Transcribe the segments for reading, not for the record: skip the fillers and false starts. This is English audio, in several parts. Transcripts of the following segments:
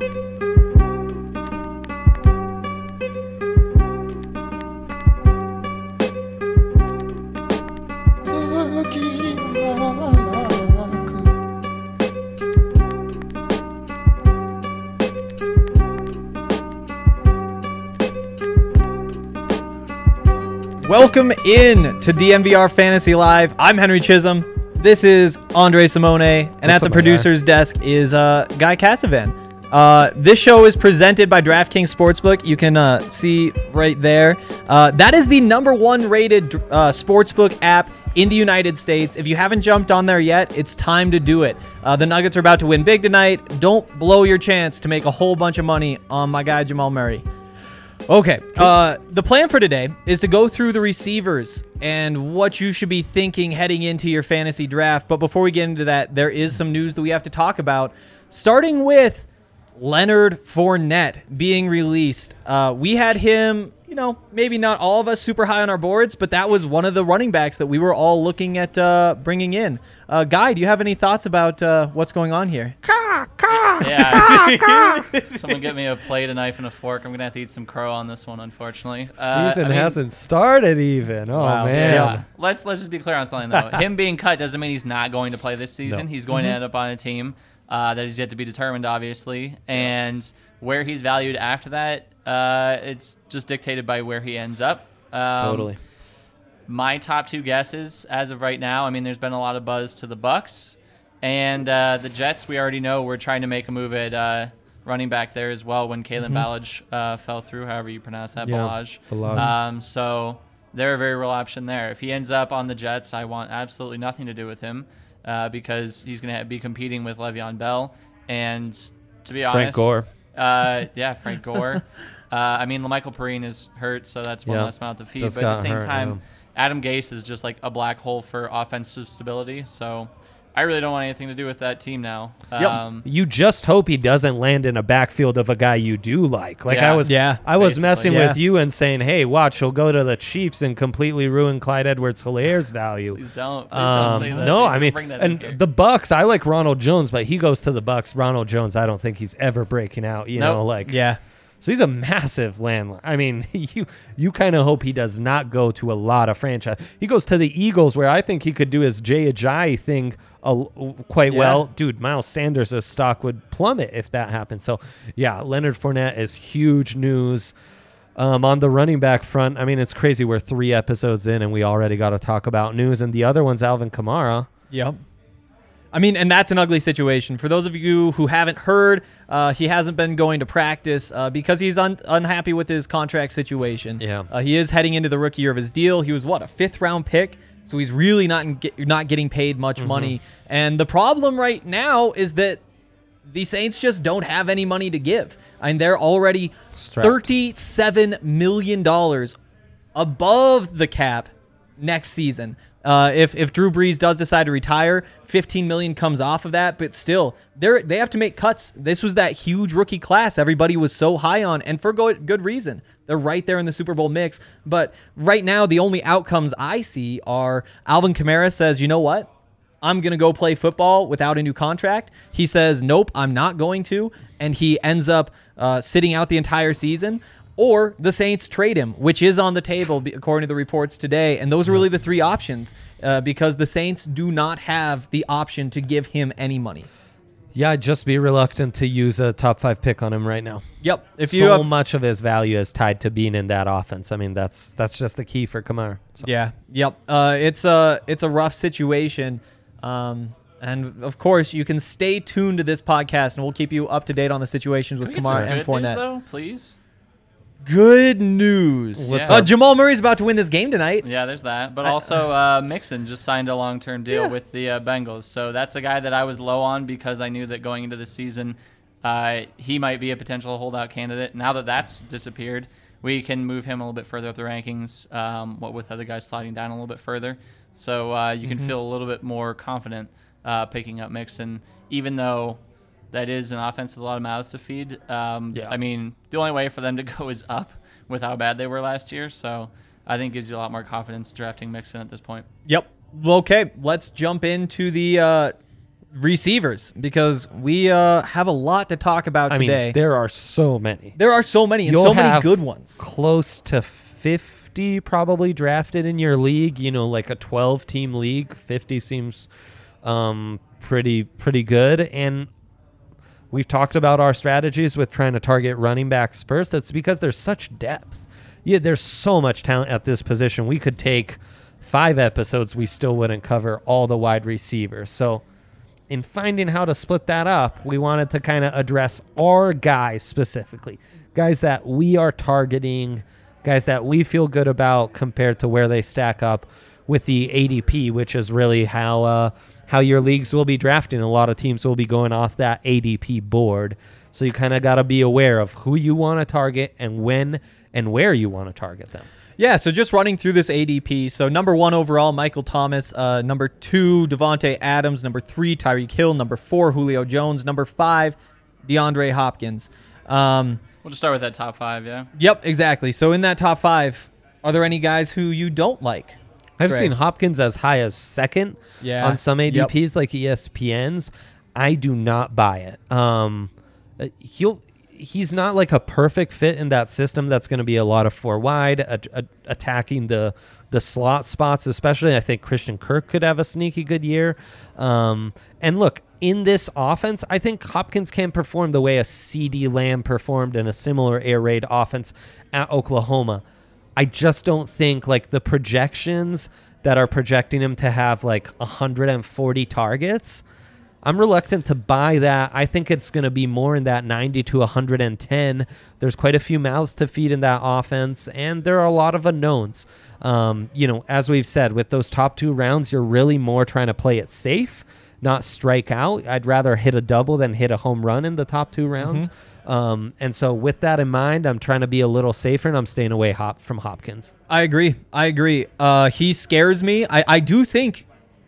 Welcome in to DNVR Fantasy Live. I'm Henry Chisholm. This is Andre Simone, and at the producer's desk is Guy Cassavan. This show is presented by DraftKings Sportsbook. You can see right there. That is the #1 rated sportsbook app in the United States. If you haven't jumped on there yet, it's time to do it. The Nuggets are about to win big tonight. Don't blow your chance to make a whole bunch of money on my guy Jamal Murray. Okay, the plan for today is to go through the receivers and what you should be thinking heading into your fantasy draft. But before we get into that, there is some news that we have to talk about, starting with Leonard Fournette being released. We had him, maybe not all of us super high on our boards, but that was one of the running backs that we were all looking at bringing in. Guy, do you have any thoughts about what's going on here? Yeah. Someone get me a plate, a knife, and a fork. I'm going to have to eat some crow on this one, unfortunately. Season hasn't started even. Oh, wow. Man. Yeah. Let's just be clear on something, though. Him being cut doesn't mean he's not going to play this season. No. He's going to end up on a team that is yet to be determined, obviously. And where he's valued after that, it's just dictated by where he ends up. Totally. My top two guesses as of right now, there's been a lot of buzz to the Bucks. And the Jets, we already know we're trying to make a move at running back there as well when Kalen Ballage fell through, however you pronounce that, Ballage. So they're a very real option there. If he ends up on the Jets, I want absolutely nothing to do with him because he's going to be competing with Le'Veon Bell. And to be honest, Frank Gore. Frank Gore. Michael Perrine is hurt, so that's one less mouth to feed. But at the same time, Adam Gase is just like a black hole for offensive stability. So I really don't want anything to do with that team now. You just hope he doesn't land in a backfield of a guy you do like. I was messing with you and saying, hey, watch, he'll go to the Chiefs and completely ruin Clyde Edwards-Hilaire's value. Please don't say that. No, and the Bucks, I like Ronald Jones, but he goes to the Bucks. Ronald Jones, I don't think he's ever breaking out. So he's a massive landline. You kind of hope he does not go to a lot of franchise. He goes to the Eagles, where I think he could do his Jay Ajayi thing quite well. Dude, Miles Sanders' stock would plummet if that happened. So, Leonard Fournette is huge news. On the running back front, it's crazy. We're 3 episodes in, and we already got to talk about news. And the other one's Alvin Kamara. Yep. And that's an ugly situation. For those of you who haven't heard, he hasn't been going to practice because he's unhappy with his contract situation. Yeah. He is heading into the rookie year of his deal. He was, a 5th-round pick? So he's really not getting paid much money. And the problem right now is that the Saints just don't have any money to give. They're already $37 million above the cap next season. If Drew Brees does decide to retire, $15 million comes off of that, but still, they have to make cuts. This was that huge rookie class everybody was so high on, and for good reason. They're right there in the Super Bowl mix, but right now, the only outcomes I see are Alvin Kamara says, you know what? I'm going to go play football without a new contract. He says, nope, I'm not going to, and he ends up sitting out the entire season. Or the Saints trade him, which is on the table according to the reports today. And those are really the 3 options because the Saints do not have the option to give him any money. Yeah, I'd just be reluctant to use a top 5 pick on him right now. Yep. Much of his value is tied to being in that offense. That's just the key for Kamara. So. Yeah. Yep. It's a rough situation. And of course, you can stay tuned to this podcast, and we'll keep you up to date on the situations with Kamara and Fournette. News, though, please. Good news. Jamal Murray's about to win this game tonight. Yeah, there's that. But also Mixon just signed a long-term deal with the Bengals. So that's a guy that I was low on because I knew that going into the season he might be a potential holdout candidate. Now that that's disappeared, we can move him a little bit further up the rankings, with other guys sliding down a little bit further. So you can feel a little bit more confident picking up Mixon, even though that is an offense with a lot of mouths to feed. The only way for them to go is up with how bad they were last year. So I think gives you a lot more confidence drafting Mixon at this point. Yep. Okay, let's jump into the receivers, because we have a lot to talk about today. Mean, there are so many. There are so many, and so many good ones. Close to 50 probably drafted in your league. Like a 12-team league, 50 seems pretty good. And we've talked about our strategies with trying to target running backs first. That's because there's such depth. Yeah, there's so much talent at this position. We could take 5 episodes, we still wouldn't cover all the wide receivers. So in finding how to split that up, we wanted to kind of address our guys specifically, guys that we are targeting, guys that we feel good about compared to where they stack up with the ADP, which is really how your leagues will be drafting. A lot of teams will be going off that ADP board. So you kind of got to be aware of who you want to target and when and where you want to target them. Yeah, so just running through this ADP. So number 1 overall, Michael Thomas. Number 2, Devontae Adams. Number 3, Tyreek Hill. Number 4, Julio Jones. Number 5, DeAndre Hopkins. We'll just start with that top 5, yeah? Yep, exactly. So in that top 5, are there any guys who you don't like? I've seen Hopkins as high as 2nd on some ADPs like ESPN's. I do not buy it. He's not like a perfect fit in that system. That's going to be a lot of 4 wide, attacking the slot spots, especially. I think Christian Kirk could have a sneaky good year. And look, in this offense, I think Hopkins can perform the way a CeeDee Lamb performed in a similar air raid offense at Oklahoma. I just don't think like the projections that are projecting him to have like 140 targets, I'm reluctant to buy that. I think it's going to be more in that 90 to 110. There's quite a few mouths to feed in that offense, and there are a lot of unknowns. As we've said, with those top 2 rounds, you're really more trying to play it safe, not strike out. I'd rather hit a double than hit a home run in the top 2 rounds. Mm-hmm. And so with that in mind, I'm trying to be a little safer, and I'm staying away from Hopkins. I agree. He scares me. I do think...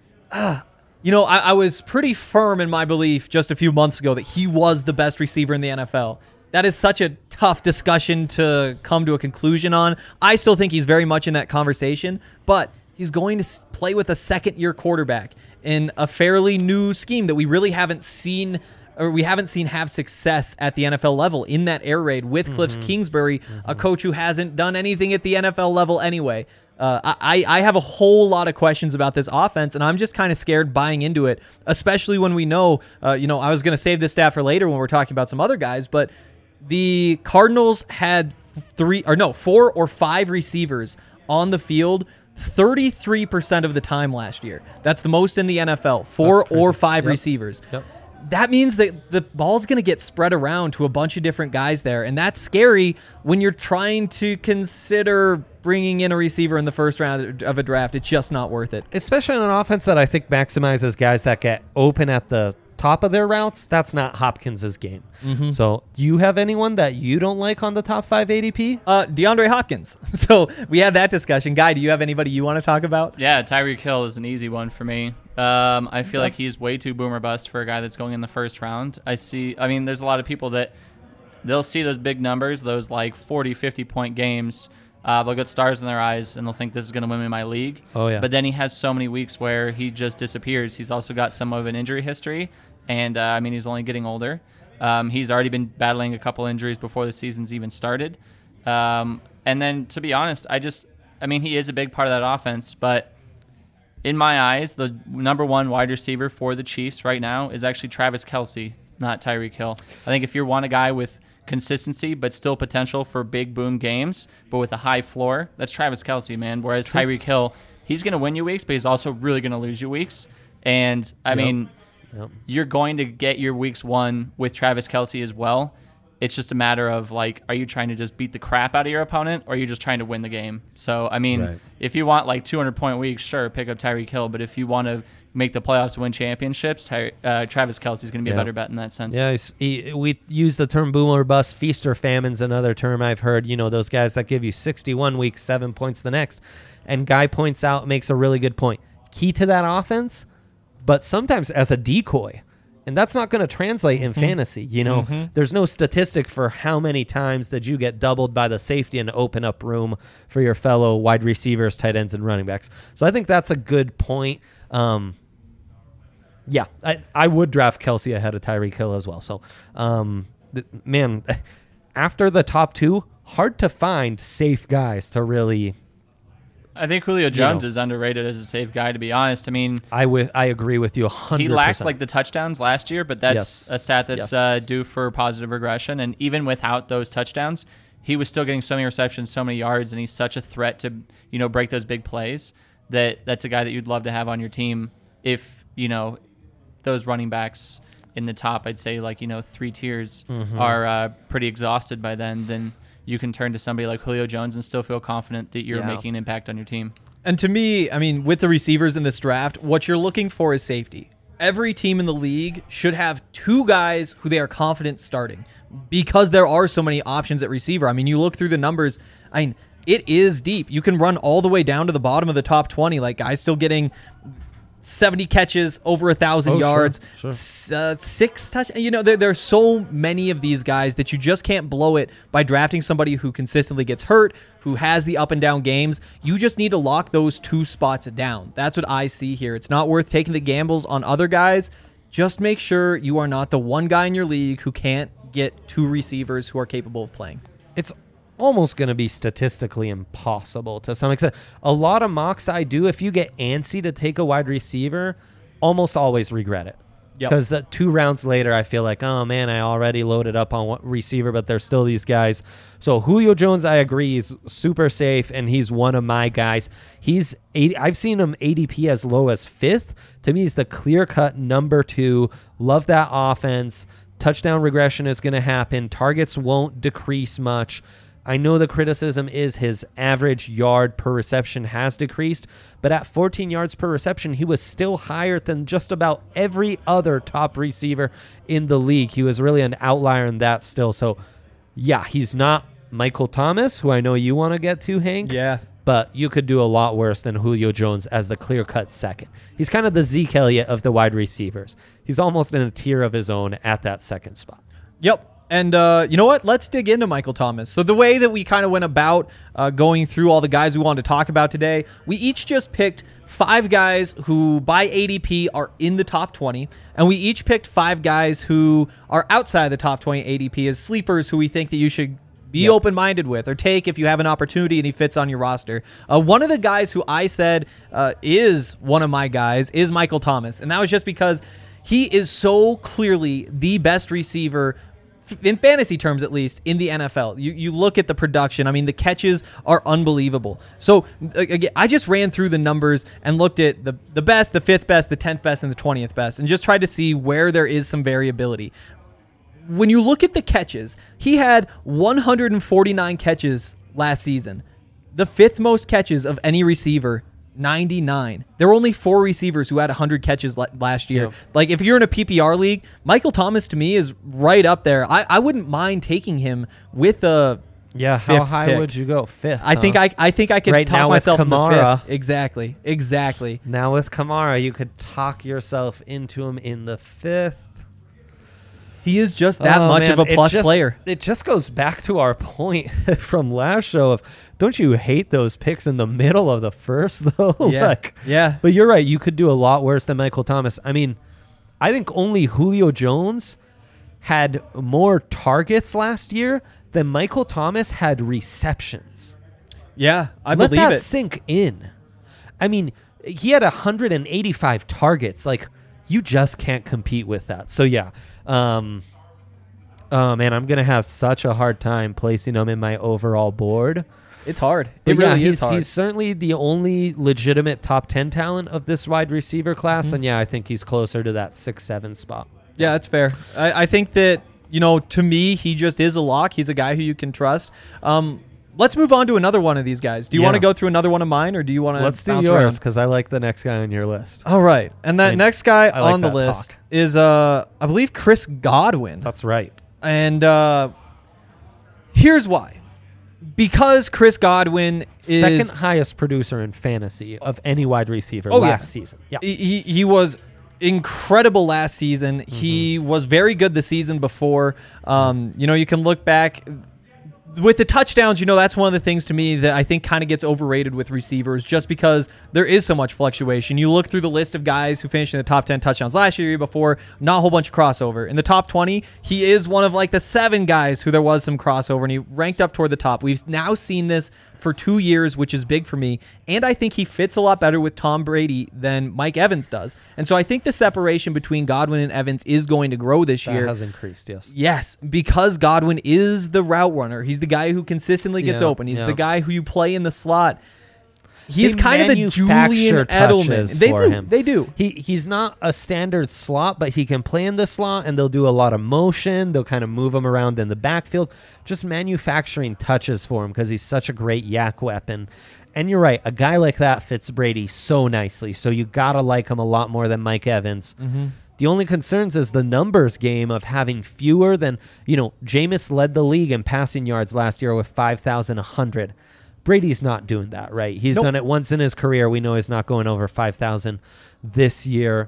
I was pretty firm in my belief just a few months ago that he was the best receiver in the NFL. That is such a tough discussion to come to a conclusion on. I still think he's very much in that conversation, but he's going to play with a second-year quarterback in a fairly new scheme that we really haven't seen have success at the NFL level in that air raid with Cliff Kingsbury, a coach who hasn't done anything at the NFL level anyway. I have a whole lot of questions about this offense, and I'm just kind of scared buying into it, especially when we know, I was going to save this stat for later when we're talking about some other guys, but the Cardinals had 4 or 5 receivers on the field 33% of the time last year. That's the most in the NFL, 4 or 5 receivers. Yep. That means that the ball's going to get spread around to a bunch of different guys there, and that's scary when you're trying to consider bringing in a receiver in the first round of a draft. It's just not worth it. Especially on an offense that I think maximizes guys that get open at the top of their routes. That's not Hopkins' game. Mm-hmm. So do you have anyone that you don't like on the top 5 ADP? DeAndre Hopkins. So we had that discussion. Guy, do you have anybody you want to talk about? Yeah, Tyreek Hill is an easy one for me. I feel like he's way too boomer bust for a guy that's going in the first round. There's a lot of people that they'll see those big numbers, those like 40, 50-point games. They'll get stars in their eyes, and they'll think this is going to win me my league. Oh, yeah. But then he has so many weeks where he just disappears. He's also got some of an injury history, and, he's only getting older. He's already been battling a couple injuries before the season's even started. And then, to be honest, he is a big part of that offense, but in my eyes, the number 1 wide receiver for the Chiefs right now is actually Travis Kelce, not Tyreek Hill. I think if you want a guy with consistency but still potential for big boom games, but with a high floor, that's Travis Kelce, man. Whereas Tyreek Hill, he's going to win you weeks, but he's also really going to lose you weeks. And, you're going to get your weeks won with Travis Kelce as well. It's just a matter of, are you trying to just beat the crap out of your opponent, or are you just trying to win the game? So, if you want, 200-point weeks, sure, pick up Tyreek Hill. But if you want to make the playoffs to win championships, Travis Kelce is going to be a better bet in that sense. Yeah, we use the term boomer bust. Feast or famine's another term I've heard. Those guys that give you 61 weeks, 7 points the next. And Guy makes a really good point. Key to that offense, but sometimes as a decoy. And that's not going to translate in fantasy. There's no statistic for how many times that you get doubled by the safety and open up room for your fellow wide receivers, tight ends, and running backs. So I think that's a good point. Yeah, I would draft Kelce ahead of Tyreek Hill as well. So, man, after the top two, hard to find safe guys to really. I think Julio Jones is underrated as a safe guy, to be honest. I mean, I agree with you 100%. He lacked like the touchdowns last year, but that's a stat that's due for positive regression. And even without those touchdowns, he was still getting so many receptions, so many yards, and he's such a threat to break those big plays that's a guy that you'd love to have on your team if those running backs in the top, I'd say like 3 tiers are pretty exhausted by then you can turn to somebody like Julio Jones and still feel confident that you're making an impact on your team. And to me, I mean, with the receivers in this draft, what you're looking for is safety. Every team in the league should have 2 guys who they are confident starting because there are so many options at receiver. I mean, you look through the numbers, it is deep. You can run all the way down to the bottom of the top 20, like guys still getting 70 catches, over 1,000 yards, sure. 6 touchdowns. There's so many of these guys that you just can't blow it by drafting somebody who consistently gets hurt, who has the up and down games. You just need to lock those 2 spots down. That's what I see here. It's not worth taking the gambles on other guys. Just make sure you are not the one guy in your league who can't get 2 receivers who are capable of playing. It's almost going to be statistically impossible to some extent. A lot of mocks I do, if you get antsy to take a wide receiver, almost always regret it. Because 2 rounds later, I feel like, oh man, I already loaded up on receiver, but there's still these guys. So Julio Jones, I agree, is super safe, and he's one of my guys. I've seen him ADP as low as 5th. To me, he's the clear-cut number 2. Love that offense. Touchdown regression is going to happen. Targets won't decrease much. I know the criticism is his average yard per reception has decreased, but at 14 yards per reception, he was still higher than just about every other top receiver in the league. He was really an outlier in that still. So, yeah, he's not Michael Thomas, who I know you want to get to, Hank. Yeah. But you could do a lot worse than Julio Jones as the clear-cut second. He's kind of the Zeke Elliott of the wide receivers. He's almost in a tier of his own at that second spot. Yep. And you know what? Let's dig into Michael Thomas. So the way that we kind of went about going through all the guys we wanted to talk about today, we each just picked 5 guys who by ADP are in the top 20, and we each picked 5 guys who are outside the top 20 ADP as sleepers who we think that you should be open-minded with or take if you have an opportunity and he fits on your roster. One of the guys who I said is one of my guys is Michael Thomas, and that was just because he is so clearly the best receiver in fantasy terms, at least, in the NFL. You look at the production. I mean, the catches are unbelievable. So, again, I just ran through the numbers and looked at the best, the 5th best, the 10th best, and the 20th best, and just tried to see where there is some variability. When you look at the catches, he had 149 catches last season. The 5th most catches of any receiver, 99. There were only 4 receivers who had 100 catches last year. Yep. Like, if you're in a PPR league, Michael Thomas to me is right up there. I wouldn't mind taking him with a how high pick. Would you go? 5th? I think I could right talk now myself with Kamara. into 5th. Exactly. Now with Kamara, you could talk yourself into him in the 5th. He is just that much of a plus player. It just goes back to our point from last show of, don't you hate those picks in the middle of the first, though? Yeah. But you're right. You could do a lot worse than Michael Thomas. I mean, I think only Julio Jones had more targets last year than Michael Thomas had receptions. Yeah, I believe it. Let that sink in. I mean, he had 185 targets. Like, you just can't compete with that. So, yeah. Oh, man, I'm going to have such a hard time placing him in my overall board. It's hard. But it really is hard. He's certainly the only legitimate top 10 talent of this wide receiver class. Mm-hmm. And, yeah, I think he's closer to that 6-7 spot. Yeah, that's fair. I think that, to me, he just is a lock. He's a guy who you can trust. Let's move on to another one of these guys. Do you want to go through another one of mine, or do you want to Let's do yours, because I like the next guy on your list. All right. And that next guy on the list is, I believe, Chris Godwin. That's right. And here's why. Because Chris Godwin is... second highest producer in fantasy of any wide receiver last season. Yeah. He was incredible last season. Mm-hmm. He was very good the season before. You can look back... with the touchdowns, that's one of the things to me that I think kind of gets overrated with receivers just because there is so much fluctuation. You look through the list of guys who finished in the top 10 touchdowns last year before, not a whole bunch of crossover. In the top 20, he is one of like the 7 guys who there was some crossover, and he ranked up toward the top. We've now seen this for 2 years, which is big for me. And I think he fits a lot better with Tom Brady than Mike Evans does. And so I think the separation between Godwin and Evans is going to grow this year. That has increased, yes. Yes, because Godwin is the route runner. He's the guy who consistently gets open. He's the guy who you play in the slot. He's kind of the Julian Edelman. They do. He's not a standard slot, but he can play in the slot, and they'll do a lot of motion. They'll kind of move him around in the backfield, just manufacturing touches for him because he's such a great yak weapon. And you're right, a guy like that fits Brady so nicely. So you got to like him a lot more than Mike Evans. Mm-hmm. The only concerns is the numbers game of having fewer than, Jameis led the league in passing yards last year with 5,100. Brady's not doing that, right? He's done it once in his career. We know he's not going over 5,000 this year.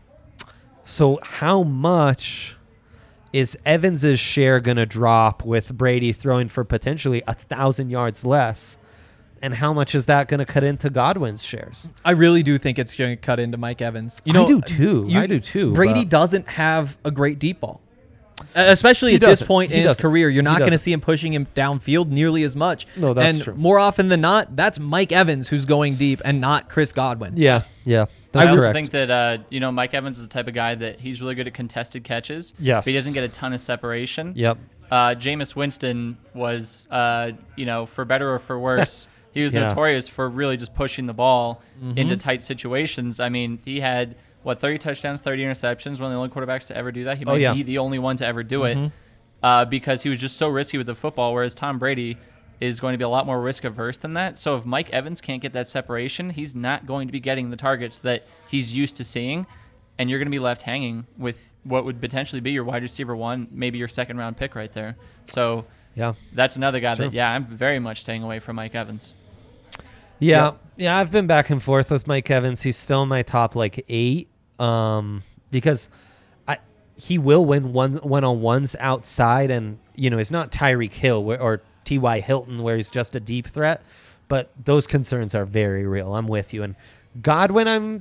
So how much is Evans's share going to drop with Brady throwing for potentially 1,000 yards less? And how much is that going to cut into Godwin's shares? I really do think it's going to cut into Mike Evans. I do too. Brady doesn't have a great deep ball. Especially at this point in his career, you're not going to see him pushing him downfield nearly as much. No, that's true. More often than not, that's Mike Evans who's going deep and not Chris Godwin. Yeah. I also think that Mike Evans is the type of guy that he's really good at contested catches. Yes. But he doesn't get a ton of separation. Yep. Jameis Winston was, for better or for worse, he was notorious for really just pushing the ball into tight situations. I mean, he had 30 touchdowns, 30 interceptions, one of the only quarterbacks to ever do that. He might be the only one to ever do it because he was just so risky with the football, whereas Tom Brady is going to be a lot more risk-averse than that. So if Mike Evans can't get that separation, he's not going to be getting the targets that he's used to seeing, and you're going to be left hanging with what would potentially be your wide receiver 1, maybe your second-round pick right there. So that's another guy that, I'm very much staying away from Mike Evans. Yeah, I've been back and forth with Mike Evans. He's still in my top 8. Because he will win one-on-ones outside, and he's not Tyreek Hill or T.Y. Hilton where he's just a deep threat, but those concerns are very real. I'm with you. And Godwin,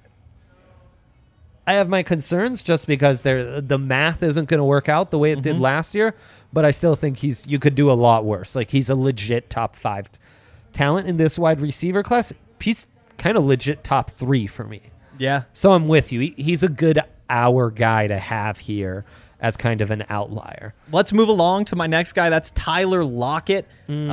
I have my concerns just because the math isn't going to work out the way it did last year, but I still think you could do a lot worse. Like, he's a legit top 5 talent in this wide receiver class. He's kind of legit top 3 for me. Yeah. So I'm with you. He's a good hour guy to have here as kind of an outlier. Let's move along to my next guy. That's Tyler Lockett.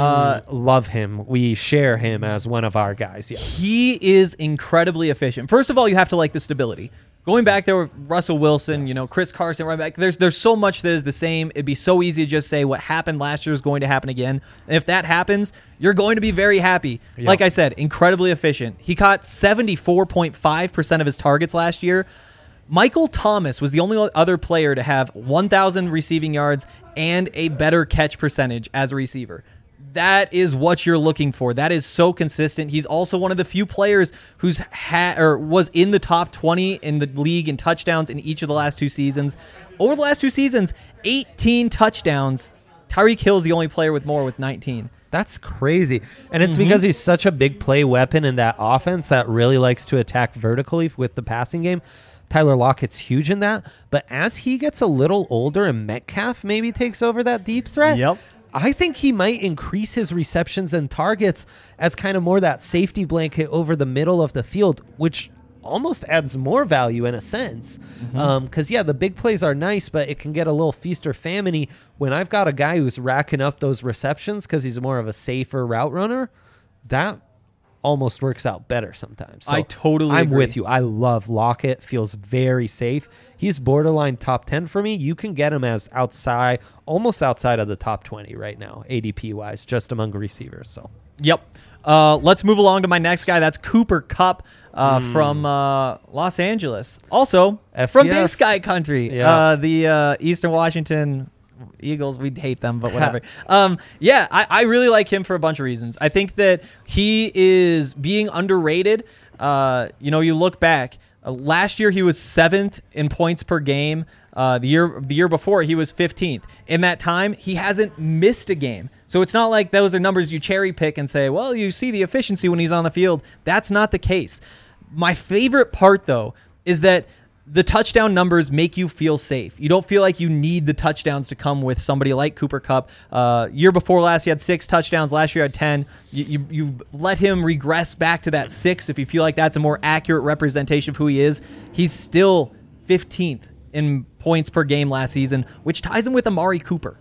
Love him. We share him as one of our guys. Yeah. He is incredibly efficient. First of all, you have to like the stability. Going back there with Russell Wilson, Chris Carson, right back. There's so much that is the same. It'd be so easy to just say what happened last year is going to happen again. And if that happens, you're going to be very happy. Yep. Like I said, incredibly efficient. He caught 74.5% of his targets last year. Michael Thomas was the only other player to have 1,000 receiving yards and a better catch percentage as a receiver. That is what you're looking for. That is so consistent. He's also one of the few players who's was in the top 20 in the league in touchdowns in each of the last 2 seasons. Over the last 2 seasons, 18 touchdowns. Tyreek Hill's the only player with more, with 19. That's crazy. And it's because he's such a big play weapon in that offense that really likes to attack vertically with the passing game. Tyler Lockett's huge in that. But as he gets a little older and Metcalf maybe takes over that deep threat, I think he might increase his receptions and targets as kind of more that safety blanket over the middle of the field, which almost adds more value in a sense. Because, the big plays are nice, but it can get a little feast or famine-y when I've got a guy who's racking up those receptions because he's more of a safer route runner. That almost works out better sometimes. So I totally agree. with you. I love Lockett. Feels very safe. He's borderline top 10 for me. You can get him as almost outside of the top 20 right now, ADP wise, just among receivers. So let's move along to my next guy. That's Cooper Kupp from Los Angeles. Also FCS. From Big Sky Country. The Eastern Washington Eagles, we hate them, but whatever. I really like him for a bunch of reasons. I think that he is being underrated. You look back, Last year he was 7th in points per game. The year before he was 15th. In that time, he hasn't missed a game. So it's not like those are numbers you cherry pick and say, well, you see the efficiency when he's on the field. That's not the case. My favorite part, though, is that the touchdown numbers make you feel safe. You don't feel like you need the touchdowns to come with somebody like Cooper Kupp. Year before last, he had 6 touchdowns. Last year, he had 10. You let him regress back to that 6 if you feel like that's a more accurate representation of who he is. He's still 15th in points per game last season, which ties him with Amari Cooper.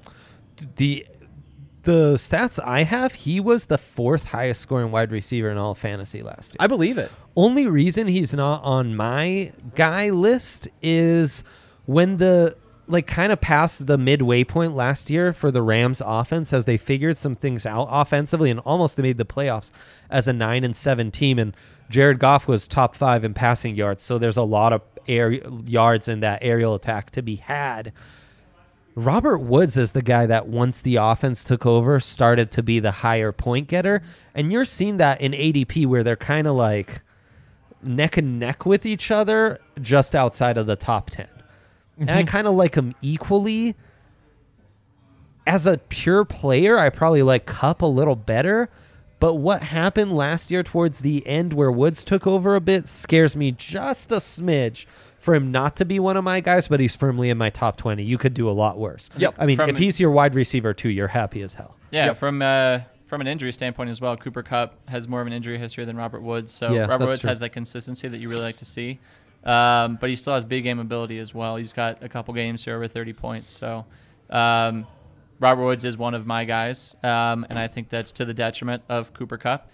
The stats I have, he was the 4th highest scoring wide receiver in all fantasy last year. I believe it. Only reason he's not on my guy list is when kind of past the midway point last year for the Rams offense as they figured some things out offensively and almost made the playoffs as a 9-7 team. And Jared Goff was top 5 in passing yards. So there's a lot of yards in that aerial attack to be had. Robert Woods is the guy that once the offense took over started to be the higher point getter. And you're seeing that in ADP where they're kind of like neck and neck with each other just outside of the top 10. Mm-hmm. And I kind of like him equally. As a pure player, I probably like Kupp a little better. But what happened last year towards the end where Woods took over a bit scares me just a smidge for him not to be one of my guys, but he's firmly in my top 20. You could do a lot worse. Yep. I mean, if he's your wide receiver too, you're happy as hell. Yeah, yep. From an injury standpoint as well, Cooper Kupp has more of an injury history than Robert Woods. So yeah, Robert Woods has that consistency that you really like to see. But he still has big game ability as well. He's got a couple games here over 30 points. So Robert Woods is one of my guys, and I think that's to the detriment of Cooper Kupp.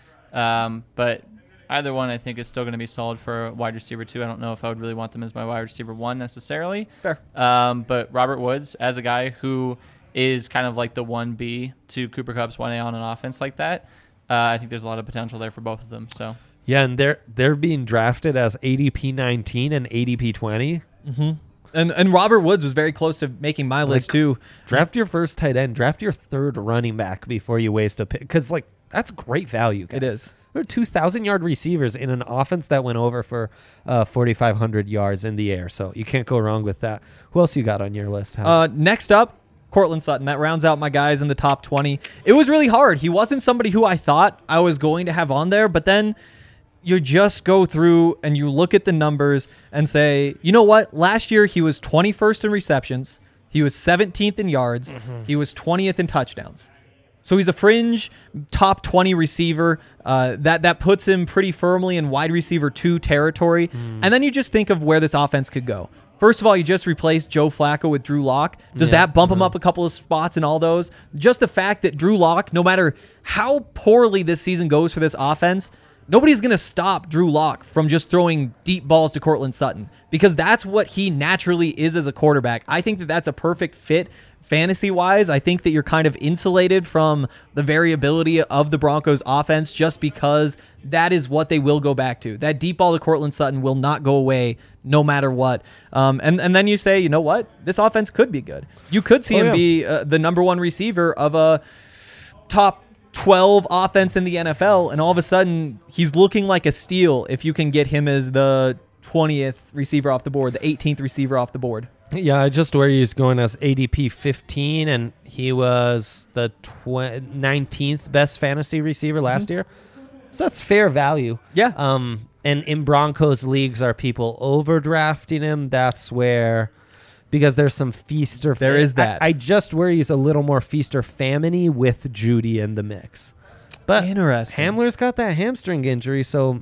But either one, I think, is still going to be solid for a wide receiver, too. I don't know if I would really want them as my wide receiver 1 necessarily. Fair. But Robert Woods, as a guy who is kind of like the 1B to Cooper Kupp's 1A on an offense like that, I think there's a lot of potential there for both of them. So yeah, and they're being drafted as ADP 19 and ADP 20. Mm-hmm. And Robert Woods was very close to making my list, too. Draft your first tight end. Draft your 3rd running back before you waste a pick. Because, that's great value, guys. It is. There are 2,000-yard receivers in an offense that went over for 4,500 yards in the air. So you can't go wrong with that. Who else you got on your list? Next up, Courtland Sutton. That rounds out my guys in the top 20. It was really hard. He wasn't somebody who I thought I was going to have on there, but then you just go through and you look at the numbers and say, you know what? Last year he was 21st in receptions. He was 17th in yards. Mm-hmm. He was 20th in touchdowns. So he's a fringe top 20 receiver. That puts him pretty firmly in wide receiver 2 territory. And then you just think of where this offense could go. First of all, you just replaced Joe Flacco with Drew Lock. Does that bump him up a couple of spots in all those? Just the fact that Drew Lock, no matter how poorly this season goes for this offense, nobody's going to stop Drew Lock from just throwing deep balls to Courtland Sutton because that's what he naturally is as a quarterback. I think that that's a perfect fit fantasy-wise. I think that you're kind of insulated from the variability of the Broncos offense just because that is what they will go back to. That deep ball to Courtland Sutton will not go away no matter what. And then you say, you know what? This offense could be good. You could see him be the number 1 receiver of a top 12 offense in the NFL, and all of a sudden he's looking like a steal if you can get him as the 20th receiver off the board, the 18th receiver off the board. Yeah, just where he's going as ADP 15, and he was the 19th best fantasy receiver last year. So that's fair value. Yeah. And in Broncos leagues, are people overdrafting him? That's where... Because there's some feast or there is that. I just worry he's a little more feast or famine-y with Judy in the mix. But interesting. Hamler's got that hamstring injury, so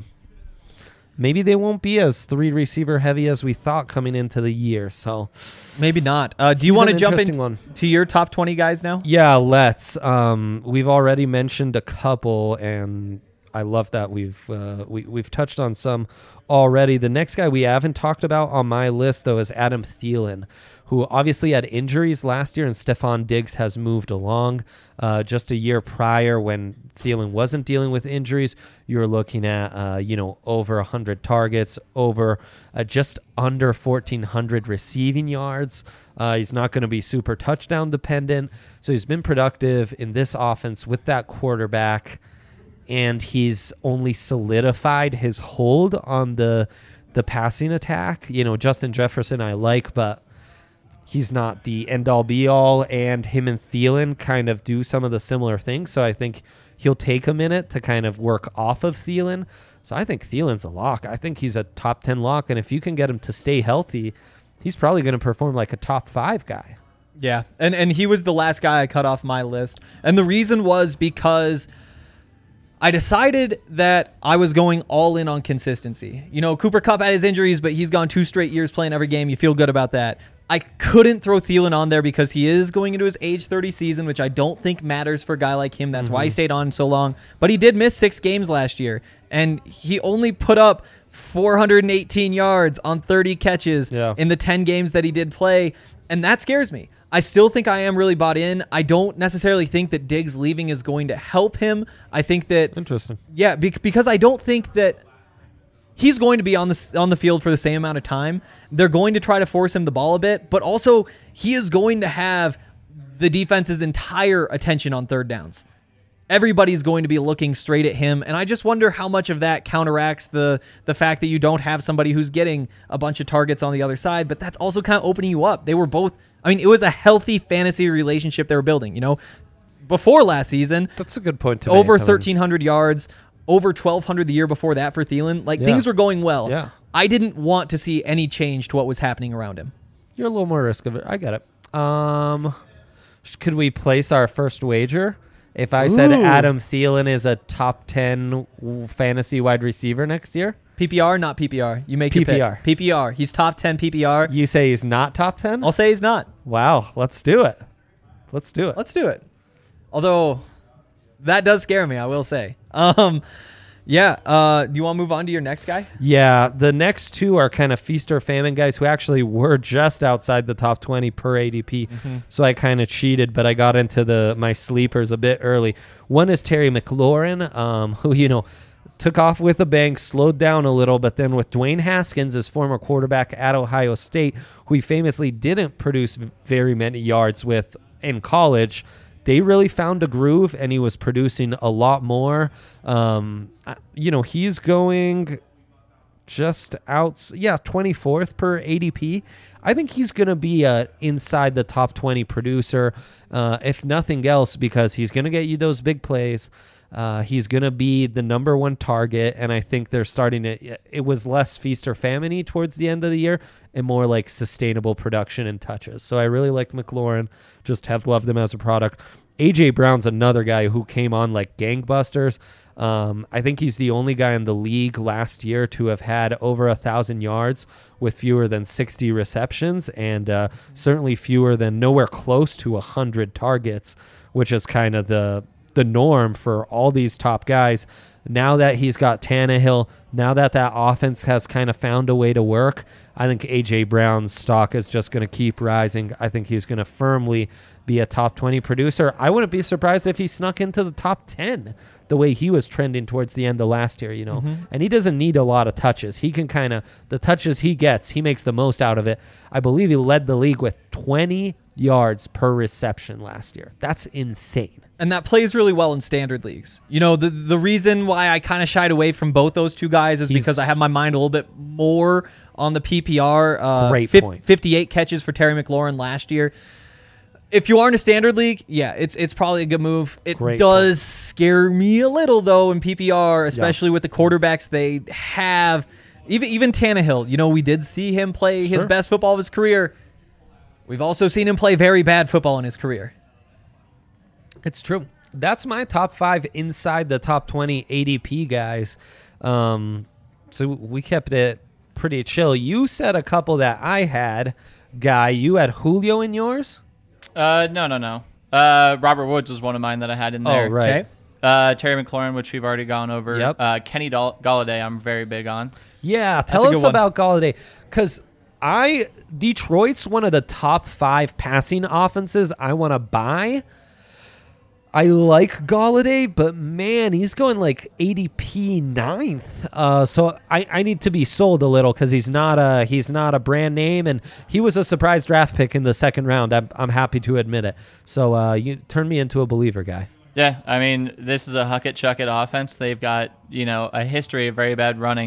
maybe they won't be as 3 receiver heavy as we thought coming into the year. So maybe not. Do you want to jump into your top 20 guys now? Yeah, let's. We've already mentioned a couple, and I love that we've touched on some already. The next guy we haven't talked about on my list, though, is Adam Thielen, who obviously had injuries last year, and Stephon Diggs has moved along. Just a year prior, when Thielen wasn't dealing with injuries, you were looking at over 100 targets, over just under 1,400 receiving yards. He's not going to be super touchdown dependent, so he's been productive in this offense with that quarterback. And he's only solidified his hold on the the passing attack. Justin Jefferson I like, but he's not the end-all be-all, and him and Thielen kind of do some of the similar things, so I think he'll take a minute to kind of work off of Thielen. So I think Thielen's a lock. I think he's a top 10 lock, and if you can get him to stay healthy, he's probably going to perform like a top 5 guy. Yeah, and he was the last guy I cut off my list, and the reason was because I decided that I was going all in on consistency. Cooper Kupp had his injuries, but he's gone 2 straight years playing every game. You feel good about that. I couldn't throw Thielen on there because he is going into his age 30 season, which I don't think matters for a guy like him. That's why he stayed on so long. But he did miss 6 games last year, and he only put up 418 yards on 30 catches in the 10 games that he did play, and that scares me. I still think I am really bought in. I don't necessarily think that Diggs leaving is going to help him. I think that... Interesting. Yeah, because I don't think that he's going to be on the field for the same amount of time. They're going to try to force him the ball a bit, but also he is going to have the defense's entire attention on third downs. Everybody's going to be looking straight at him, and I just wonder how much of that counteracts the fact that you don't have somebody who's getting a bunch of targets on the other side, but that's also kind of opening you up. They were both... it was a healthy fantasy relationship they were building, Before last season... That's a good point to over 1,300 yards, over 1,200 the year before that for Thielen. Things were going well. Yeah. I didn't want to see any change to what was happening around him. You're a little more risk of it. I get it. Could we place our first wager? If I said Adam Thielen is a top 10 fantasy wide receiver next year? PPR, not PPR. You make PPR. your pick. PPR. He's top 10 PPR. You say he's not top 10? I'll say he's not. Wow. Let's do it. Let's do it. Although, that does scare me, I will say. Do you want to move on to your next guy? Yeah. The next 2 are kind of feast or famine guys who actually were just outside the top 20 per ADP. So I kind of cheated, but I got into my sleepers a bit early. One is Terry McLaurin, who, took off with a bang, slowed down a little, but then with Dwayne Haskins, his former quarterback at Ohio State, who he famously didn't produce very many yards with in college, they really found a groove, and he was producing a lot more. He's going just out, 24th per ADP. I think he's going to be inside the top 20 producer, if nothing else, because he's going to get you those big plays. He's going to be the number 1 target, and I think they're starting to... It was less feast or famine-y towards the end of the year and more like sustainable production and touches. So I really like McLaurin, just have loved him as a product. A.J. Brown's another guy who came on like gangbusters. I think he's the only guy in the league last year to have had over 1,000 yards with fewer than 60 receptions, and certainly fewer than nowhere close to 100 targets, which is kind of the norm for all these top guys. Now that he's got Tannehill, now that offense has kind of found a way to work, I think A.J. Brown's stock is just going to keep rising. I think he's going to firmly be a top 20 producer. I wouldn't be surprised if he snuck into the top 10 the way he was trending towards the end of last year, And he doesn't need a lot of touches. He can the touches he gets, he makes the most out of it. I believe he led the league with 20 yards per reception last year. That's insane. And that plays really well in standard leagues. The reason why I kind of shied away from both those two guys is because I have my mind a little bit more on the PPR. Great point. 58 catches for Terry McLaurin last year. If you are in a standard league, it's probably a good move. It does scare me a little, though, in PPR, especially with the quarterbacks they have. Even Tannehill, we did see him play his best football of his career. We've also seen him play very bad football in his career. It's true. That's my top 5 inside the top 20 ADP guys. So we kept it pretty chill. You said a couple that I had. Guy, you had Julio in yours? No. Robert Woods was one of mine that I had in there. Oh, right. Okay. Terry McLaurin, which we've already gone over. Yep. Kenny Galladay, I'm very big on. Yeah, tell us about Galladay. Because Detroit's one of the top 5 passing offenses I want to buy. I like Galladay, but man, he's going like ADP 9th. So I need to be sold a little because he's not a brand name, and he was a surprise draft pick in the 2nd round. I'm happy to admit it. So you turn me into a believer, guy. Yeah, I mean, this is a huck it, chuck it offense. They've got a history of very bad running.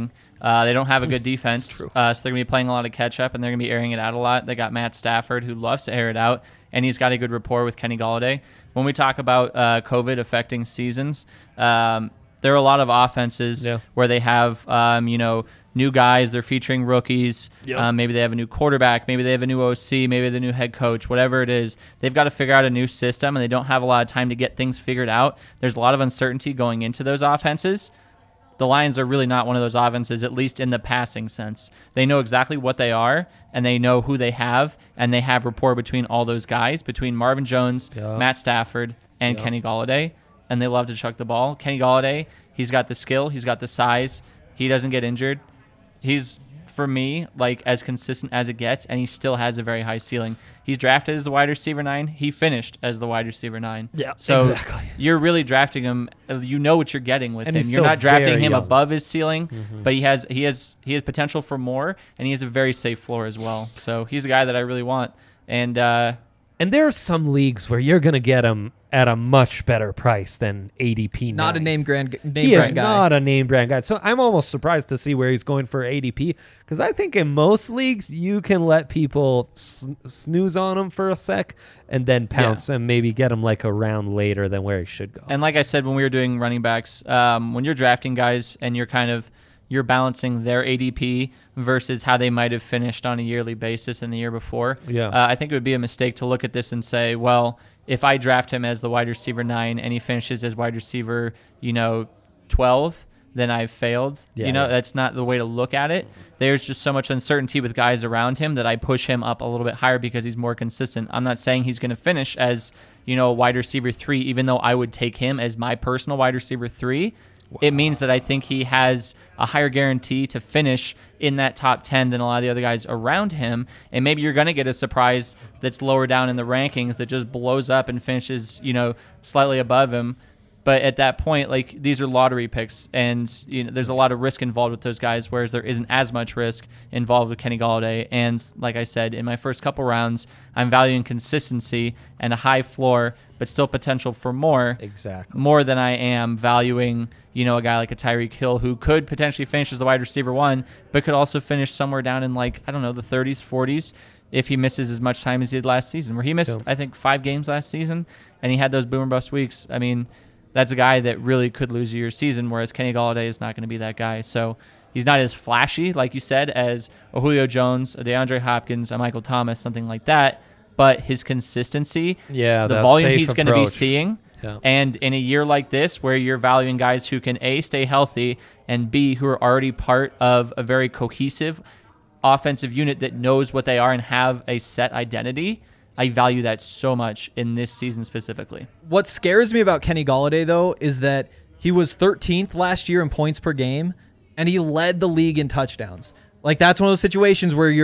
They don't have a good defense, so they're going to be playing a lot of catch-up, and they're going to be airing it out a lot. They got Matt Stafford, who loves to air it out, and he's got a good rapport with Kenny Golladay. When we talk about COVID affecting seasons, there are a lot of offenses where they have, new guys. They're featuring rookies. Maybe they have a new quarterback. Maybe they have a new OC. Maybe the new head coach. Whatever it is, they've got to figure out a new system, and they don't have a lot of time to get things figured out. There's a lot of uncertainty going into those offenses. The Lions are really not one of those offenses, at least in the passing sense. They know exactly what they are, and they know who they have, and they have rapport between all those guys, between Marvin Jones, Matt Stafford, and Kenny Golladay, and they love to chuck the ball. Kenny Golladay, he's got the skill, he's got the size, he doesn't get injured. He's, for me, like as consistent as it gets, and he still has a very high ceiling. He's drafted as the wide receiver 9. He finished as the wide receiver 9. Yeah, so exactly. You're really drafting him. You know what you're getting with him. You're not drafting him above his ceiling, but he has potential for more, and he has a very safe floor as well. So he's a guy that I really want. And there are some leagues where you're going to get him at a much better price than ADP. Not a name brand guy. He is not a name brand guy. So I'm almost surprised to see where he's going for ADP, because I think in most leagues you can let people snooze on him for a sec and then pounce and maybe get him like a round later than where he should go. And like I said, when we were doing running backs, when you're drafting guys and you're balancing their ADP versus how they might have finished on a yearly basis in the year before. I think it would be a mistake to look at this and say, well, if I draft him as the wide receiver 9 and he finishes as wide receiver, 12, then I've failed. That's not the way to look at it. There's just so much uncertainty with guys around him that I push him up a little bit higher because he's more consistent. I'm not saying he's going to finish as, a wide receiver 3, even though I would take him as my personal wide receiver 3. Wow. It means that I think he has a higher guarantee to finish in that top 10 than a lot of the other guys around him. And maybe you're going to get a surprise that's lower down in the rankings that just blows up and finishes, slightly above him. But at that point, like, these are lottery picks, and there's a lot of risk involved with those guys, whereas there isn't as much risk involved with Kenny Golladay. And like I said, in my first couple rounds, I'm valuing consistency and a high floor, but still potential for more. Exactly. More than I am valuing, a guy like a Tyreek Hill who could potentially finish as the wide receiver 1, but could also finish somewhere down in, the 30s, 40s, if he misses as much time as he did last season, where he missed, I think, 5 games last season, and he had those boom or bust weeks. I mean, that's a guy that really could lose you your season, whereas Kenny Golladay is not going to be that guy. So he's not as flashy, like you said, as a Julio Jones, a DeAndre Hopkins, a Michael Thomas, something like that. But his consistency, the volume he's going to be seeing, and in a year like this where you're valuing guys who can, A, stay healthy, and B, who are already part of a very cohesive offensive unit that knows what they are and have a set identity, I value that so much in this season specifically. What scares me about Kenny Golladay, though, is that he was 13th last year in points per game, and he led the league in touchdowns. Like, that's one of those situations where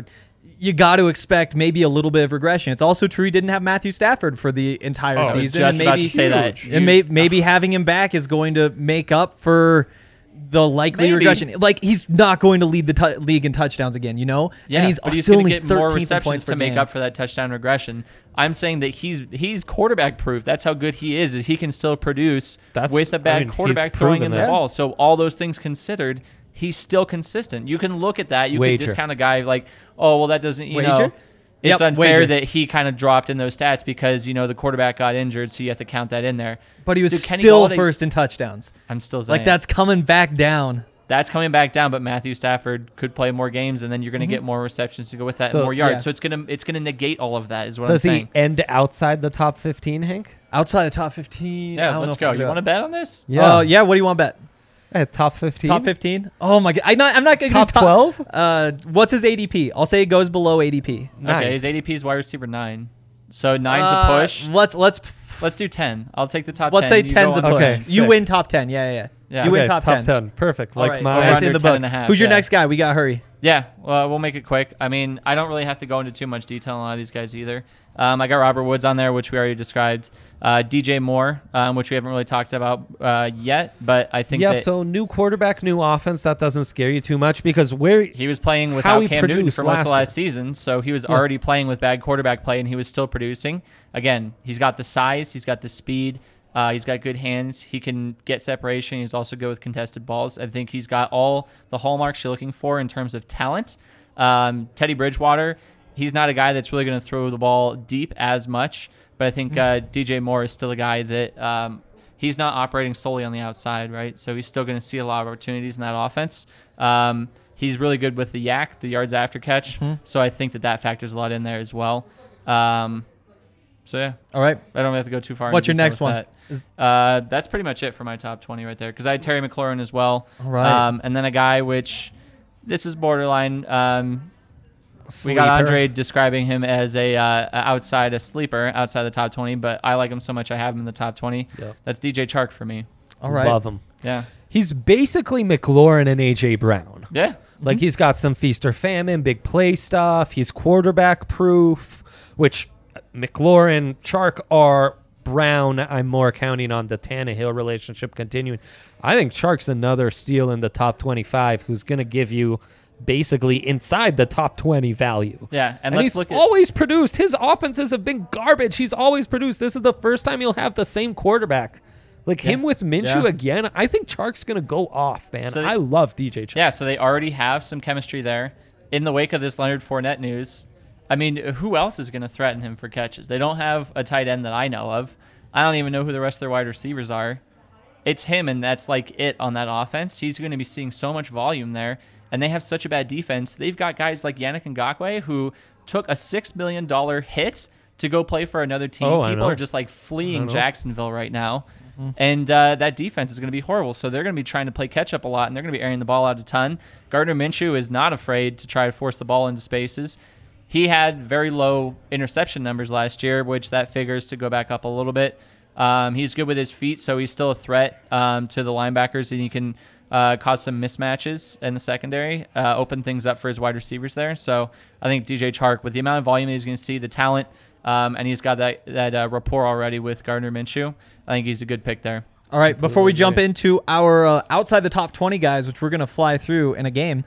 you got to expect maybe a little bit of regression. It's also true he didn't have Matthew Stafford for the entire season. I was just about to say that. And maybe having him back is going to make up for the likely regression. Like, he's not going to lead the league in touchdowns again, Yeah, and he's going to get more receptions to make up for that touchdown regression. I'm saying that he's quarterback proof. That's how good he is he can still produce with a bad quarterback throwing in the ball. So all those things considered, he's still consistent. You can look at that. You can discount a guy like, oh, well, that doesn't, it's unfair that he kind of dropped in those stats because, the quarterback got injured, so you have to count that in there. But he was still first in touchdowns. I'm still saying. Like, that's coming back down. That's coming back down, but Matthew Stafford could play more games, and then you're going to get more receptions to go with that and more yards. So it's gonna negate all of that, is what I'm saying. Does he end outside the top 15, Hank? Outside the top 15? Yeah, let's go. You want to bet on this? Yeah. What do you want to bet? Top 15? Top 15? Oh, my God. I'm not going to top 12? What's his ADP? I'll say it goes below ADP. 9. Okay, his ADP is wide receiver 9. So 9's a push. Let's do 10. I'll take the top 10. Let's say 10's a push. Okay, you win top 10. Yeah. You win top 10. Top 10. Perfect. Like that's in the book. Who's your next guy? We got to hurry. Yeah, well, we'll make it quick. I mean, I don't really have to go into too much detail on a lot of these guys either. I got Robert Woods on there, which we already described. DJ Moore, which we haven't really talked about yet, but I think so new quarterback, new offense, that doesn't scare you too much because he was playing without Cam Newton for most of last season, so he was already playing with bad quarterback play, and he was still producing. Again, he's got the size, he's got the speed. He's got good hands. He can get separation. He's also good with contested balls. I think he's got all the hallmarks you're looking for in terms of talent. Teddy Bridgewater, he's not a guy that's really going to throw the ball deep as much, but I think DJ Moore is still a guy that he's not operating solely on the outside, right? So he's still going to see a lot of opportunities in that offense. He's really good with the yak, the yards after catch. So I think that factors a lot in there as well. So yeah. All right. I don't have to go too far. What's your next one? That's pretty much it for my top 20 right there, because I had Terry McLaurin as well. All right. And then a guy which this is borderline. We got Andre describing him as a sleeper outside the top 20, but I like him so much I have him in the top 20. Yep. That's DJ Chark for me. All right. Love him. Yeah. He's basically McLaurin and A.J. Brown. Yeah. Like he's got some feast or famine, big play stuff. He's quarterback proof, which McLaurin, Chark are Brown. I'm more counting on the Tannehill relationship continuing. I think Chark's another steal in the top 25 who's going to give you basically inside the top 20 value. Yeah, and he's always produced. His offenses have been garbage. He's always produced. This is the first time he'll have the same quarterback. Like him with Minshew again, I think Chark's going to go off, man. So I love DJ Chark. Yeah, so they already have some chemistry there. In the wake of this Leonard Fournette news, I mean, who else is going to threaten him for catches? They don't have a tight end that I know of. I don't even know who the rest of their wide receivers are. It's him, and that's like it on that offense. He's going to be seeing so much volume there, and they have such a bad defense. They've got guys like Yannick Ngakoue who took a $6 million hit to go play for another team. People are just like fleeing Jacksonville right now. And that defense is going to be horrible. So they're going to be trying to play catch-up a lot, and they're going to be airing the ball out a ton. Gardner Minshew is not afraid to try to force the ball into spaces. He had very low interception numbers last year, which that figures to go back up a little bit. He's good with his feet, so he's still a threat to the linebackers, and he can cause some mismatches in the secondary, open things up for his wide receivers there. So I think DJ Chark, with the amount of volume that he's going to see, the talent, and he's got that rapport already with Gardner Minshew, I think he's a good pick there. All right, before we jump into our outside the top 20 guys, which we're going to fly through in a game,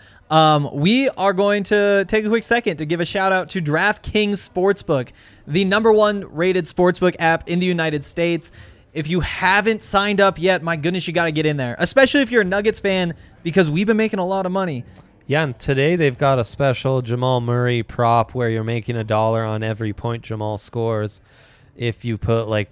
we are going to take a quick second to give a shout-out to DraftKings Sportsbook, the #1 rated sportsbook app in the United States. If you haven't signed up yet, my goodness, you got to get in there, especially if you're a Nuggets fan, because we've been making a lot of money. Yeah, and today they've got a special Jamal Murray prop where you're making $1 on every point Jamal scores. If you put like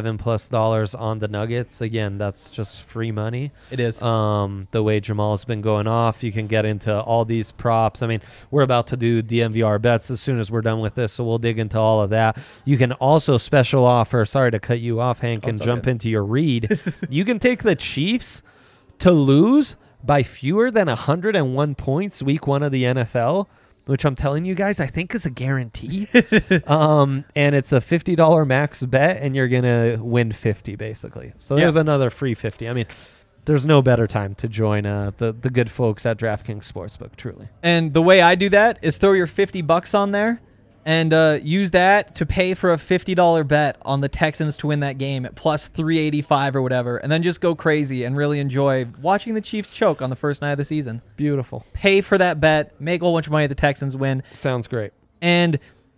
$27+ on the Nuggets, again, that's just free money. It is. The way Jamal's been going off, you can get into all these props. I mean, we're about to do DNVR bets as soon as we're done with this, so we'll dig into all of that. You can also special offer, sorry to cut you off, Hank, and jump into your read. You can take the Chiefs to lose by fewer than 101 points week 1 of the NFL, which I'm telling you guys, I think is a guarantee. And it's a $50 max bet, and you're going to win 50 basically. So there's another free 50. I mean, there's no better time to join the good folks at DraftKings Sportsbook, truly. And the way I do that is throw your $50 on there and use that to pay for a $50 bet on the Texans to win that game at plus 385 or whatever, and then just go crazy and really enjoy watching the Chiefs choke on the first night of the season. Beautiful. Pay for that bet, make a whole bunch of money, the Texans win. Sounds great. And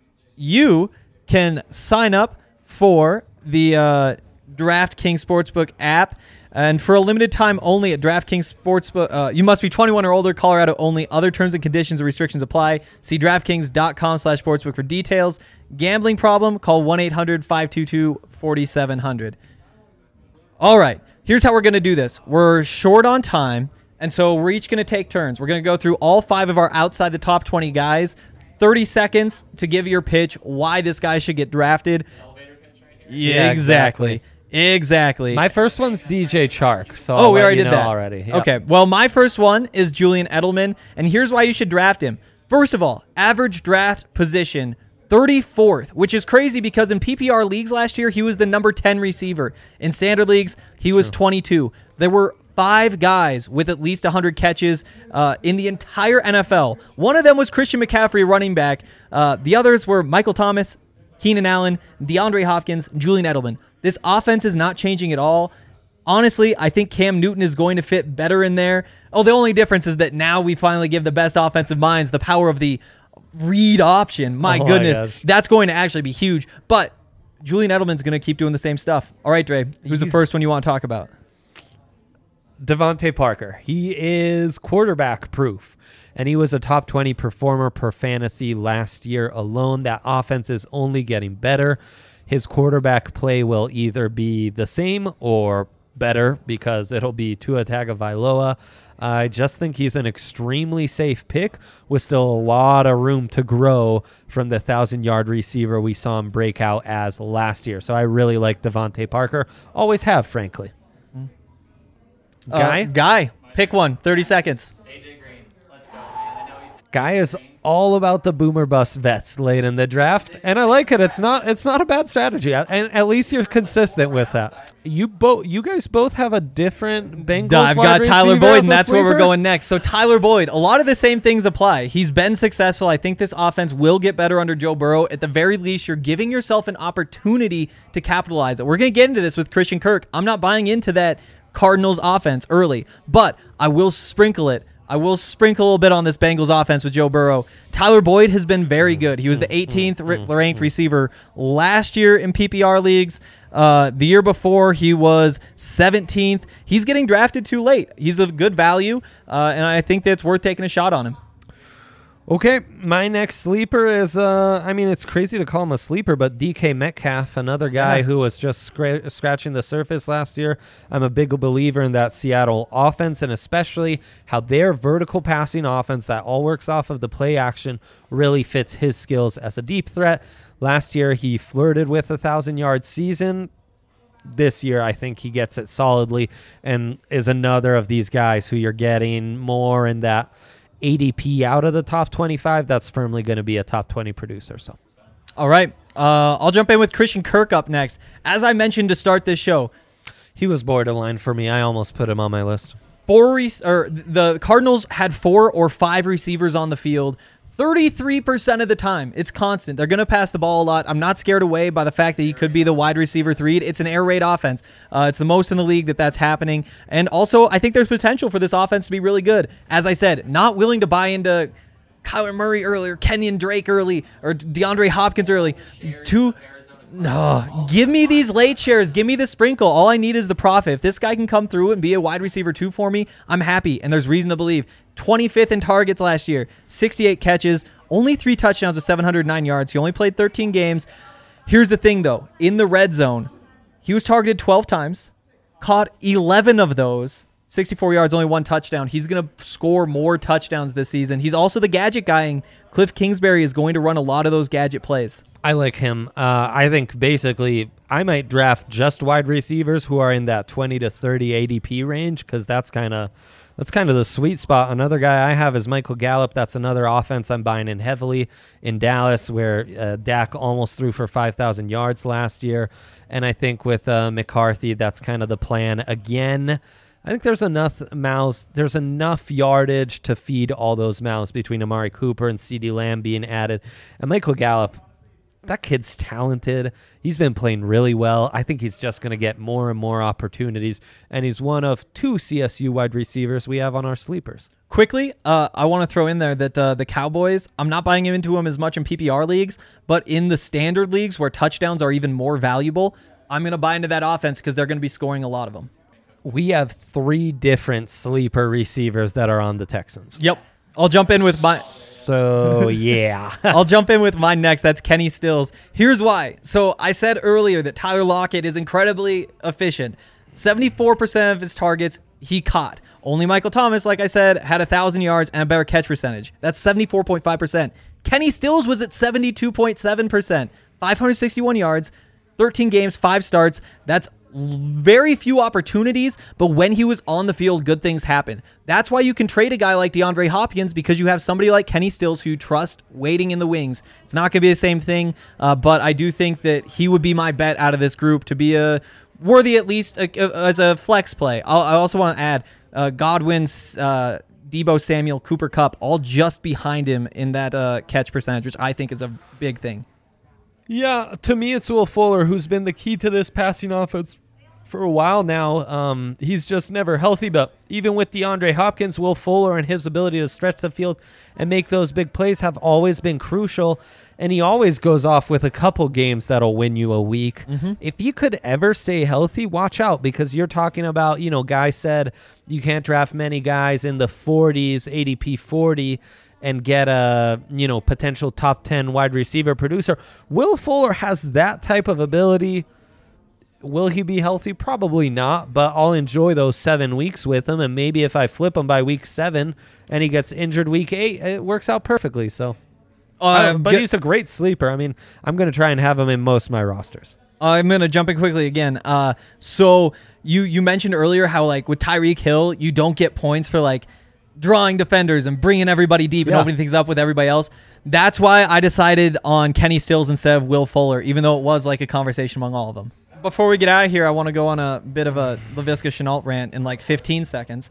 you can sign up for the DraftKings Sportsbook app. And for a limited time only at DraftKings Sportsbook, you must be 21 or older, Colorado only. Other terms and conditions and restrictions apply. See DraftKings.com/sportsbook for details. Gambling problem? Call 1-800-522-4700. All right, here's how we're going to do this. We're short on time, and so we're each going to take turns. We're going to go through all 5 of our outside the top 20 guys. 30 seconds to give your pitch why this guy should get drafted. Elevator pitch right here. Yeah, exactly. My first one's DJ Chark. So we already did that already. Yep. Okay. Well, my first one is Julian Edelman, and here's why you should draft him. First of all, average draft position 34th, which is crazy because in PPR leagues last year he was the number 10 receiver. In standard leagues, he was 22. There were 5 guys with at least 100 catches in the entire NFL. One of them was Christian McCaffrey, running back. The others were Michael Thomas, Keenan Allen, DeAndre Hopkins, Julian Edelman. This offense is not changing at all. Honestly, I think Cam Newton is going to fit better in there. Oh, the only difference is that now we finally give the best offensive minds the power of the read option. My goodness, that's going to actually be huge. But Julian Edelman's going to keep doing the same stuff. All right, Dre, who's the first one you want to talk about? Devontae Parker. He is quarterback proof, and he was a top 20 performer per fantasy last year alone. That offense is only getting better. His quarterback play will either be the same or better because it'll be Tua Tagovailoa. I just think he's an extremely safe pick with still a lot of room to grow from the 1,000-yard receiver we saw him break out as last year. So I really like Devontae Parker. Always have, frankly. Guy, pick one. 30 seconds. AJ Green. Let's go, man. I know he's Guy is all about the boomer bust vets late in the draft, and I like it. It's not a bad strategy, and at least you're consistent with that. You guys both have a different Bengals. I've got Tyler Boyd, and that's where we're going next. So Tyler Boyd, a lot of the same things apply. He's been successful. I think this offense will get better under Joe Burrow. At the very least, you're giving yourself an opportunity to capitalize it. We're going to get into this with Christian Kirk. I'm not buying into that Cardinals offense early, but I will sprinkle it. I will sprinkle a little bit on this Bengals offense with Joe Burrow. Tyler Boyd has been very good. He was the 18th ranked receiver last year in PPR leagues. The year before, he was 17th. He's getting drafted too late. He's a good value, and I think that it's worth taking a shot on him. Okay, my next sleeper is, it's crazy to call him a sleeper, but DK Metcalf, another guy who was just scratching the surface last year. I'm a big believer in that Seattle offense, and especially how their vertical passing offense that all works off of the play action really fits his skills as a deep threat. Last year, he flirted with a 1,000-yard season. This year, I think he gets it solidly and is another of these guys who you're getting more in that ADP out of the top 25, that's firmly going to be a top 20 producer. So, all right. I'll jump in with Christian Kirk up next. As I mentioned to start this show, he was borderline for me. I almost put him on my list. The Cardinals had 4 or 5 receivers on the field 33% of the time. It's constant. They're going to pass the ball a lot. I'm not scared away by the fact that he could be the wide receiver 3. It's an air raid offense. It's the most in the league that's happening. And also, I think there's potential for this offense to be really good. As I said, not willing to buy into Kyler Murray early or Kenyon Drake early or DeAndre Hopkins early. No, give me these late shares. Give me the sprinkle. All I need is the profit. If this guy can come through and be a wide receiver 2 for me, I'm happy. And there's reason to believe. 25th in targets last year, 68 catches, only 3 touchdowns with 709 yards. He only played 13 games. Here's the thing, though. In the red zone, he was targeted 12 times, caught 11 of those, 64 yards, only 1 touchdown. He's going to score more touchdowns this season. He's also the gadget guy, and Cliff Kingsbury is going to run a lot of those gadget plays. I like him. I think basically I might draft just wide receivers who are in that 20 to 30 ADP range because that's kind of the sweet spot. Another guy I have is Michael Gallup. That's another offense I'm buying in heavily in Dallas where Dak almost threw for 5,000 yards last year. And I think with McCarthy, that's kind of the plan again. I think there's enough yardage to feed all those mouths between Amari Cooper and CeeDee Lamb being added. And Michael Gallup, that kid's talented. He's been playing really well. I think he's just going to get more and more opportunities, and he's one of 2 CSU wide receivers we have on our sleepers. Quickly, I want to throw in there that the Cowboys, I'm not buying into them as much in PPR leagues, but in the standard leagues where touchdowns are even more valuable, I'm going to buy into that offense because they're going to be scoring a lot of them. We have 3 different sleeper receivers that are on the Texans. Yep. I'll jump in with my... So, yeah. I'll jump in with mine next. That's Kenny Stills. Here's why. So I said earlier that Tyler Lockett is incredibly efficient. 74% of his targets he caught. Only Michael Thomas, like I said, had 1,000 yards and a better catch percentage. That's 74.5%. Kenny Stills was at 72.7%. 561 yards, 13 games, 5 starts. That's very few opportunities, but when he was on the field, good things happen. That's why you can trade a guy like DeAndre Hopkins because you have somebody like Kenny Stills who you trust waiting in the wings. It's not going to be the same thing, but I do think that he would be my bet out of this group to be a worthy at least as a flex play. I also want to add Godwin, Deebo Samuel, Cooper Kupp, all just behind him in that catch percentage, which I think is a big thing. Yeah, to me it's Will Fuller who's been the key to this passing offense for a while now. He's just never healthy, but even with DeAndre Hopkins, Will Fuller and his ability to stretch the field and make those big plays have always been crucial, and he always goes off with a couple games that'll win you a week. If you could ever stay healthy, watch out, because you're talking about, Guy said you can't draft many guys in the 40s, ADP 40, and get a, potential top 10 wide receiver producer. Will Fuller has that type of ability. Will he be healthy? Probably not, but I'll enjoy those 7 weeks with him, and maybe if I flip him by week 7 and he gets injured week 8, it works out perfectly. So, but he's a great sleeper. I mean, I'm going to try and have him in most of my rosters. I'm going to jump in quickly again. So you mentioned earlier how, like, with Tyreek Hill, you don't get points for, like, drawing defenders and bringing everybody deep and opening things up with everybody else. That's why I decided on Kenny Stills instead of Will Fuller, even though it was like a conversation among all of them. Before we get out of here, I want to go on a bit of a Laviska Shenault rant in like 15 seconds.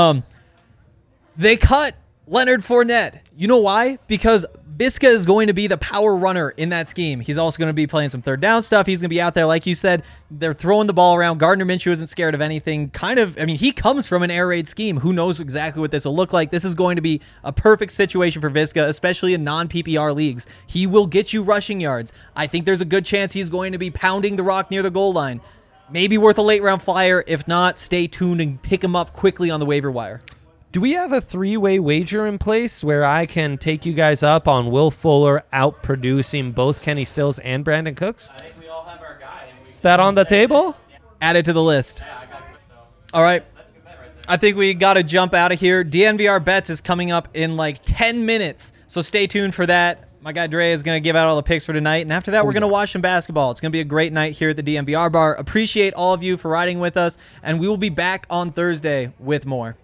They cut Leonard Fournette. You know why? Because Viska is going to be the power runner in that scheme. He's also going to be playing some third down stuff. He's going to be out there, like you said. They're throwing the ball around. Gardner Minshew isn't scared of anything. He comes from an air raid scheme. Who knows exactly what this will look like? This is going to be a perfect situation for Viska, especially in non-PPR leagues. He will get you rushing yards. I think there's a good chance he's going to be pounding the rock near the goal line. Maybe worth a late round flyer. If not, stay tuned and pick him up quickly on the waiver wire. Do we have a 3-way wager in place where I can take you guys up on Will Fuller outproducing both Kenny Stills and Brandon Cooks? I think we all have our guy. Is that on the table? Add it to the list. Yeah, I got it. So. All right. That's a good bet right there. I think we got to jump out of here. DNVR Bets is coming up in like 10 minutes, so stay tuned for that. My guy Dre is going to give out all the picks for tonight, and after that, we're going to watch some basketball. It's going to be a great night here at the DNVR bar. Appreciate all of you for riding with us, and we will be back on Thursday with more.